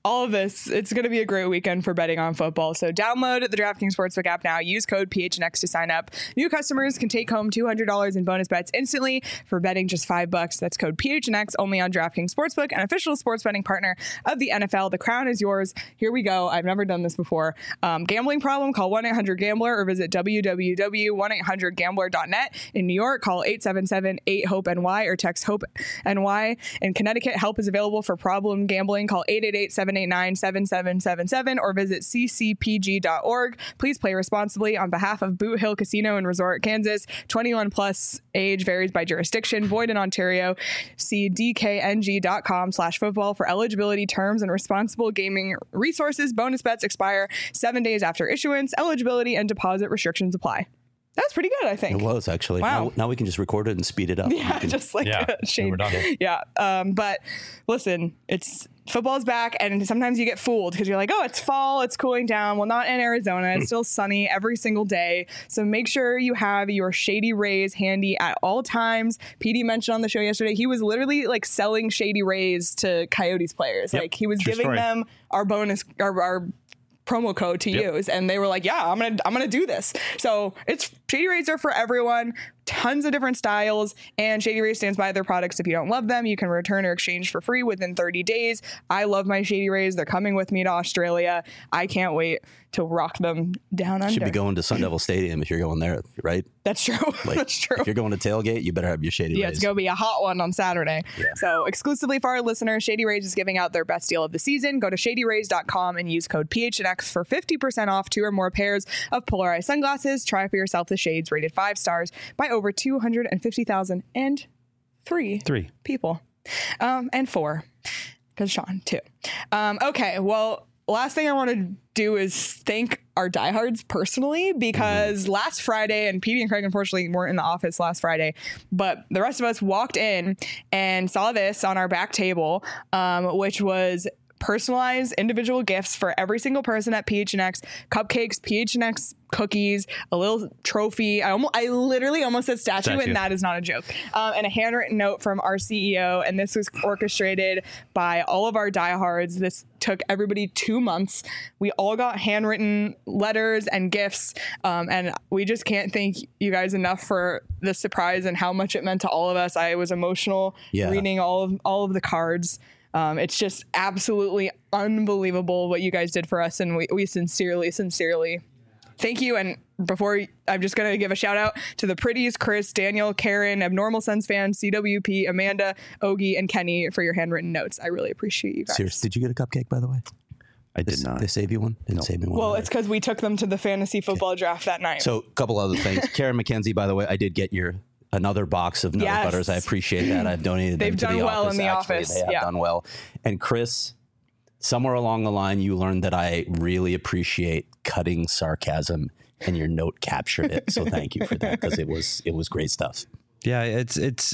all of this, it's going to be a great weekend for betting on football. So download the DraftKings Sportsbook app now. Use code P H N X to sign up. New customers can take home two hundred dollars in bonus bets instantly for betting just five bucks. That's code P H N X only on DraftKings Sportsbook, an official sports betting partner of the N F L. The crown is yours. Here we go. I've never done this before. Um, gambling problem? Call one eight hundred gambler or visit w w w dot one eight hundred gambler dot net. In New York, call eight seven seven eight hope N Y or text HOPE N Y. In Connecticut, help is available for problem gambling. Call eight eight eight seven eight nine seven seven seven seven or visit c c p g dot org. Please play responsibly on behalf of Boot Hill Casino and Resort, Kansas. twenty-one plus, age varies by jurisdiction, void in Ontario. See d k n g dot com slash football for eligibility, terms, and responsible gaming resources. Bonus bets expire seven days after issuance. Eligibility and deposit restrictions apply. That's pretty good, I think. It was actually. Wow. Now, now we can just record it and speed it up. Yeah, can, just like yeah, a shade. we're done. Yeah. Um, but listen, it's football's back, and sometimes you get fooled because you're like, oh, it's fall, it's cooling down. Well, not in Arizona. It's still sunny every single day. So make sure you have your Shady Rays handy at all times. P D mentioned on the show yesterday, he was literally like selling Shady Rays to Coyotes players. Yep, like he was true giving story. them our bonus, our, our promo code to Yep. use, and they were like, yeah, I'm gonna I'm gonna do this. So it's Shady Rays are for everyone, tons of different styles, and Shady Rays stands by their products. If you don't love them, you can return or exchange for free within thirty days. I love my Shady Rays. They're coming with me to Australia. I can't wait to rock them down under. Should be going to Sun Devil Stadium if you're going there, right? That's true. Like, That's true. If you're going to tailgate, you better have your Shady Yeah, Rays. it's going to be a hot one on Saturday. Yeah. So exclusively for our listeners, Shady Rays is giving out their best deal of the season. Go to shady rays dot com and use code P H N X for fifty percent off two or more pairs of polarized sunglasses. Try for yourself the shades rated five stars by over two hundred fifty thousand and three Three. people. Um, and four, because Sean, too. Um, okay, well, last thing I want to do is thank our diehards personally, because mm-hmm. last Friday, and Petey and Craig unfortunately weren't in the office last Friday, but the rest of us walked in and saw this on our back table, um, which was personalized individual gifts for every single person at P H N X, cupcakes, P H N X cookies, a little trophy. I almost, I literally almost said statue, Statue. and that is not a joke. Um, and a handwritten note from our C E O. And this was orchestrated by all of our diehards. This took everybody two months. We all got handwritten letters and gifts. Um, and we just can't thank you guys enough for the surprise and how much it meant to all of us. I was emotional Yeah. reading all of all of the cards. Um, it's just absolutely unbelievable what you guys did for us. And we, we sincerely, sincerely thank you. And before, I'm just going to give a shout out to the Pretties, Chris, Daniel, Karen, Abnormal Sons fan, C W P, Amanda, Ogie, and Kenny for your handwritten notes. I really appreciate you guys. Seriously, did you get a cupcake, by the way? I did They- not. They save you one? Didn't save me one. Well, either. it's because we took them to the fantasy football draft that night. So, a couple other things. Karen McKenzie, by the way, I did get your another box of Nut Yes. Butters. I appreciate that. I've donated They've them to done the well office. in the actually. office, They have yeah. done well. And Chris, somewhere along the line, you learned that I really appreciate cutting sarcasm, and your note captured it. So thank you for that, because it was it was great stuff. Yeah, it's it's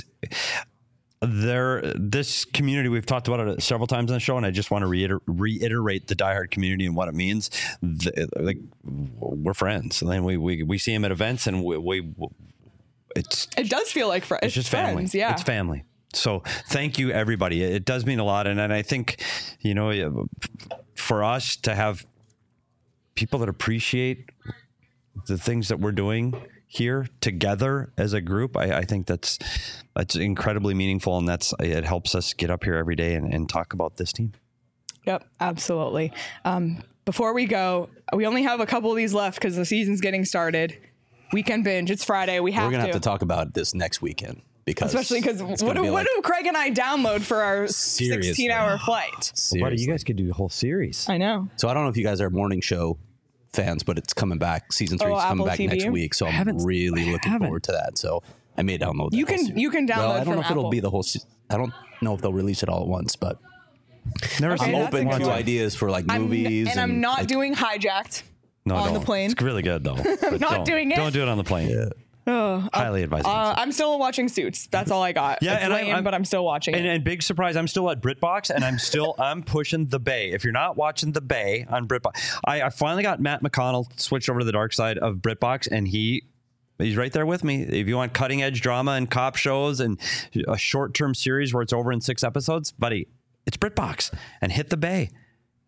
there. This community, we've talked about it several times on the show, and I just want to reiter- reiterate the diehard community and what it means. The, like we're friends, and then we we we see them at events, and we, we it's it does feel like fr- it's just family. friends. Yeah, It's family. So thank you, everybody. It does mean a lot, and and I think, you know, for us to have people that appreciate the things that we're doing here together as a group, I, I think that's that's incredibly meaningful, and that's it helps us get up here every day and, and talk about this team. Yep, absolutely. Um, before we go, we only have a couple of these left because the season's getting started. Weekend binge. It's Friday. We have We're gonna to. have to talk about this next weekend, because Especially because it's what, gonna do, be what like- do Craig and I download for our Seriously. sixteen-hour flight? Well, buddy, you guys could do a whole series. I know. So I don't know if you guys are morning show fans, but it's coming back. Season three Oh, is coming Apple back T V? next week, so I I'm haven't- really looking haven't. forward to that. So I may download that. You whole can- series. you can Well, download I don't from know if it'll Apple. be the whole. se- I don't know if they'll release it all at once, but Never Okay, I'm that's a open good to one. ideas for like I'm n- movies. and, I'm not like, doing Hijacked No, on don't. the plane. It's really good though. But Not don't, doing it? Don't do it on the plane. Oh, Highly advised. uh, I'm still watching Suits. That's all I got. Yeah, it's and I- lame, I'm- but I'm still watching And, it. and big surprise, I'm still at BritBox, and I'm still I'm pushing the Bay. If you're not watching the Bay on BritBox, I, I finally got Matt McConnell switched over to the dark side of BritBox, and he he's right there with me. If you want cutting edge drama and cop shows and a short term series where it's over in six episodes, buddy, it's BritBox, and hit the Bay.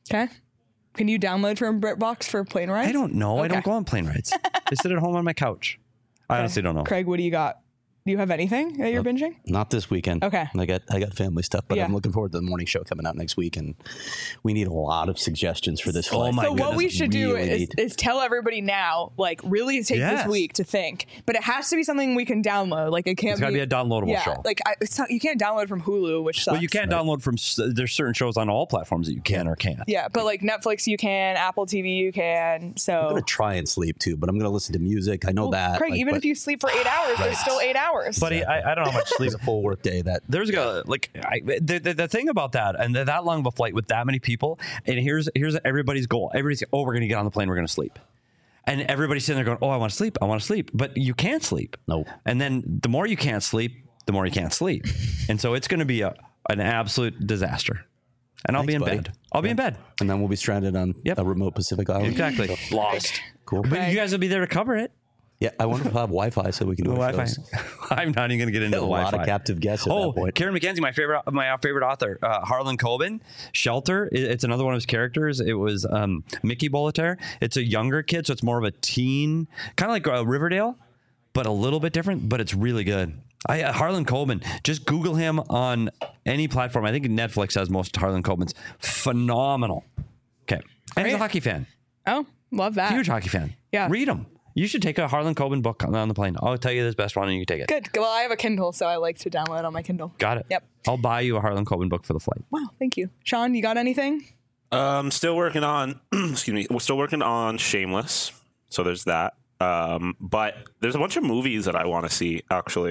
Okay. Can you download from BritBox for plane rides? I don't know. Okay. I don't go on plane rides. I sit at home on my couch. I Okay. honestly don't know. Craig, what do you got? Do you have anything that you're binging? Not this weekend. Okay. I got I got family stuff, but Yeah. I'm looking forward to the morning show coming out next week, and we need a lot of suggestions for this. Oh my so what we should do Really is, need- is tell everybody now, like really take Yes. this week to think, but it has to be something we can download. Like it can't It's gotta be a downloadable yeah, show. Like I, it's not, you can't download from Hulu, which sucks. Well, you can't download from. s- There's certain shows on all platforms that you can or can't. Yeah, but like Netflix, you can. Apple T V, you can. So I'm gonna try and sleep too, but I'm gonna listen to music. I know Well, that. Craig, like, even but if you sleep for eight hours, Right. there's still eight hours. Buddy, I, I don't know how much sleep. it's a full work day. That There's a like I, the, the the thing about that and that long of a flight with that many people, and here's here's everybody's goal. Everybody's oh, we're gonna get on the plane, we're gonna sleep, and everybody's sitting there going, oh, I want to sleep, I want to sleep, but you can't sleep. No. And then the more you can't sleep, the more you can't sleep, and so it's gonna be a an absolute disaster. And I'll Thanks, be in buddy. bed. I'll be in bed. and then we'll be stranded on Yep. a remote Pacific island. Exactly. Lost. Cool. But you guys will be there to cover it. Yeah, I wonder if I'll have Wi-Fi so we can do The our Wi-Fi. shows. I'm not even going to get into A the lot Wi-Fi. of captive guests at Oh, that point. Karen McKenzie, my favorite, my favorite author, uh, Harlan Coben, Shelter. It- It's another one of his characters. It was um, Mickey Boletaire. It's a younger kid, so it's more of a teen, kind of like uh, Riverdale, but a little bit different. But it's really good. I, uh, Harlan Coben. Just Google him on any platform. I think Netflix has most Harlan Coben's. Phenomenal. Okay, and he's a Great. hockey fan. Oh, love that. Huge hockey fan. Yeah. Read them. You should take a Harlan Coben book on on the plane. I'll tell you this best one, and you can take it. Good. Well, I have a Kindle, so I like to download on my Kindle. Got it. Yep. I'll buy you a Harlan Coben book for the flight. Wow, thank you. Sean, you got anything? Um, still working on. excuse me. We're still working on Shameless. So there's that. Um, but there's a bunch of movies that I want to see. Actually,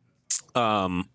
um,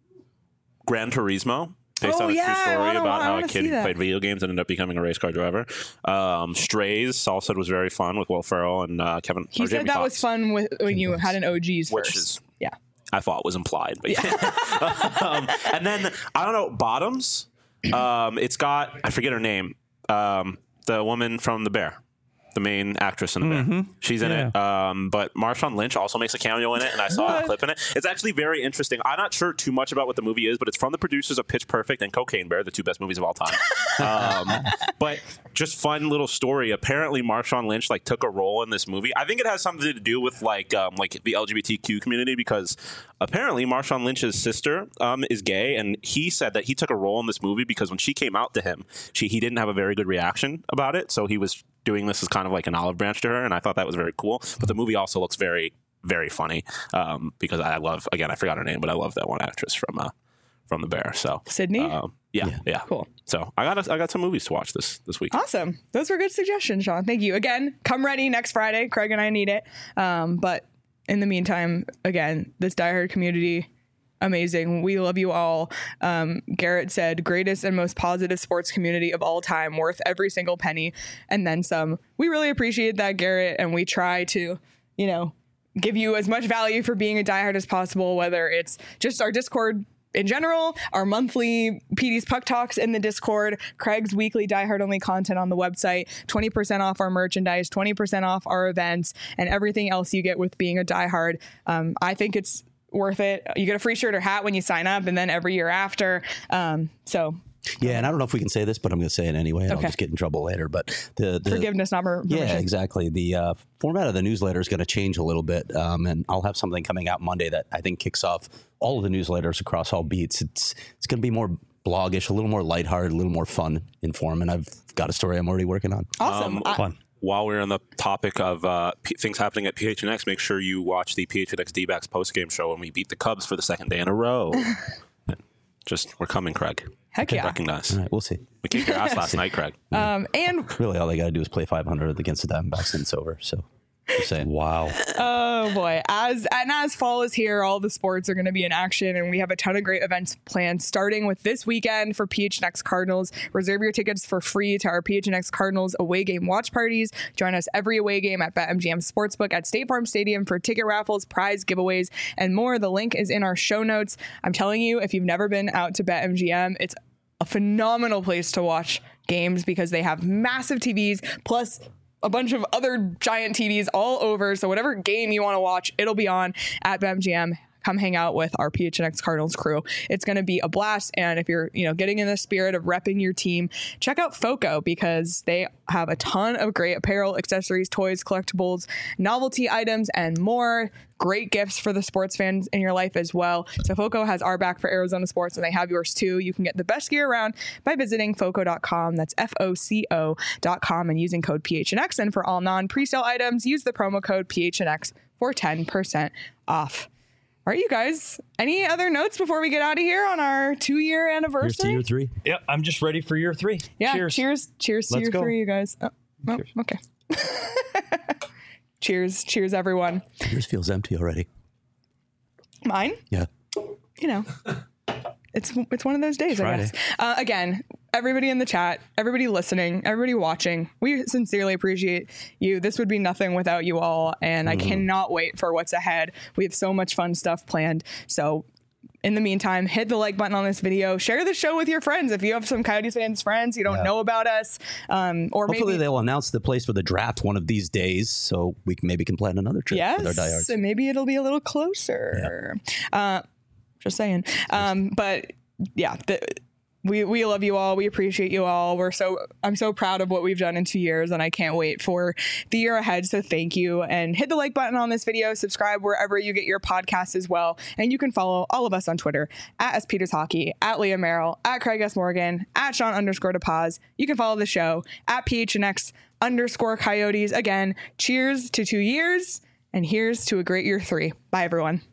Gran Turismo, based Oh, on a yeah, I true story wanna- about I how a wanna kid see that. played video games and ended up becoming a race car driver. Um, Strays, Saul said was very fun with Will Ferrell and uh, Kevin. He or said Jamie that Foxx, was fun with, when you had an O Gs Which first. is- yeah. I thought was implied, but yeah. um, and then I don't know, Bottoms. Um, it's got I forget her name. Um, the woman from The Bear, the main actress in The Bear. She's in it. Um, but Marshawn Lynch also makes a cameo in it, and I saw a What? clip in it. It's actually very interesting. I'm not sure too much about what the movie is, but it's from the producers of Pitch Perfect and Cocaine Bear, the two best movies of all time. um, but just fun little story. Apparently, Marshawn Lynch like took a role in this movie. I think it has something to do with like um, like the L G B T Q community because apparently Marshawn Lynch's sister um, is gay, and he said that he took a role in this movie because when she came out to him, she he didn't have a very good reaction about it, so he was doing this as kind of like an olive branch to her, and I thought that was very cool. But the movie also looks very, very funny um, because I love, again, I forgot her name, but I love that one actress from uh, from The Bear. So Sydney? um, yeah, yeah, Cool. So I got a, I got some movies to watch this this week. Awesome. Those were good suggestions, Sean. Thank you. Again, come ready next Friday. Craig and I need it. Um, but in the meantime, again, this Die Hard community, amazing. We love you all. Um, Garrett said, greatest and most positive sports community of all time, worth every single penny and then some. We really appreciate that, Garrett, and we try to, you know, give you as much value for being a diehard as possible, whether it's just our Discord in general, our monthly P D's Puck Talks in the Discord, Craig's weekly Die Hard only content on the website, twenty percent off our merchandise, twenty percent off our events, and everything else you get with being a Die Hard. Um, I think it's worth it. You get a free shirt or hat when you sign up, and then every year after. Um, so Yeah, and I don't know if we can say this, but I'm going to say it anyway, and Okay. I'll just get in trouble later. But the, the forgiveness, not per- permission. yeah, exactly. The uh, format of the newsletter is going to change a little bit, um, and I'll have something coming out Monday that I think kicks off all of the newsletters across all beats. It's it's going to be more bloggish, a little more lighthearted, a little more fun in form, and I've got a story I'm already working on. Awesome. Um, I- Fun. While we're on the topic of uh, P- things happening at P H N X, make sure you watch the P H N X D-backs post-game show when we beat the Cubs for the second day in a row. Just, we're coming, Craig. Heck yeah. Recognize. All right, we'll see. We kicked your ass last night, Craig. Um, and Really, all they got to do is play five hundred against the Diamondbacks, and it's over. So, just saying. Wow. oh boy, as and as fall is here, all the sports are going to be in action, and we have a ton of great events planned. Starting with this weekend for P H N X Cardinals, reserve your tickets for free to our P H N X Cardinals away game watch parties. Join us every away game at BetMGM Sportsbook at State Farm Stadium for ticket raffles, prize giveaways, and more. The link is in our show notes. I'm telling you, if you've never been out to BetMGM, it's a phenomenal place to watch games because they have massive T Vs plus a bunch of other giant T Vs all over. So whatever game you want to watch, it'll be on at BetMGM. come hang out with our P H N X Cardinals crew. It's going to be a blast. And if you're, you know, getting in the spirit of repping your team, check out FOCO because they have a ton of great apparel, accessories, toys, collectibles, novelty items, and more. Great gifts for the sports fans in your life as well. So FOCO has our back for Arizona sports, and they have yours too. You can get the best gear around by visiting foco dot com. That's F O C O dot com and using code P H N X. And for all non-presale items, use the promo code P H N X for ten percent off. All right, you guys, any other notes before we get out of here on our two-year anniversary? Here's to year three. Yep, I'm just ready for year three. Yeah, Cheers. Cheers. Cheers to Let's year go. three, you guys. Oh, oh, okay. Cheers. Cheers, everyone. Yours feels empty already. Mine? Yeah. You know, it's it's one of those days, I Friday. guess. Uh, again, everybody in the chat, everybody listening, everybody watching, we sincerely appreciate you. This would be nothing without you all, and Mm-hmm. I cannot wait for what's ahead. We have so much fun stuff planned. So in the meantime, hit the like button on this video. Share the show with your friends. If you have some Coyotes fans friends you don't Yeah. know about us, um, or Hopefully maybe they'll announce the place for the draft one of these days, so we can, maybe can plan another trip with our yes, diehards. and maybe it'll be a little closer. Uh, just saying. Um, but yeah, the, we we love you all. We appreciate you all. We're so I'm so proud of what we've done in two years, and I can't wait for the year ahead. So thank you, and hit the like button on this video. Subscribe wherever you get your podcasts as well, and you can follow all of us on Twitter at S Peters Hockey, at Leah Merrill, at Craig S Morgan, at Sean underscore DePaz. You can follow the show at P H N X underscore Coyotes. Again, cheers to two years, and here's to a great year three. Bye, everyone.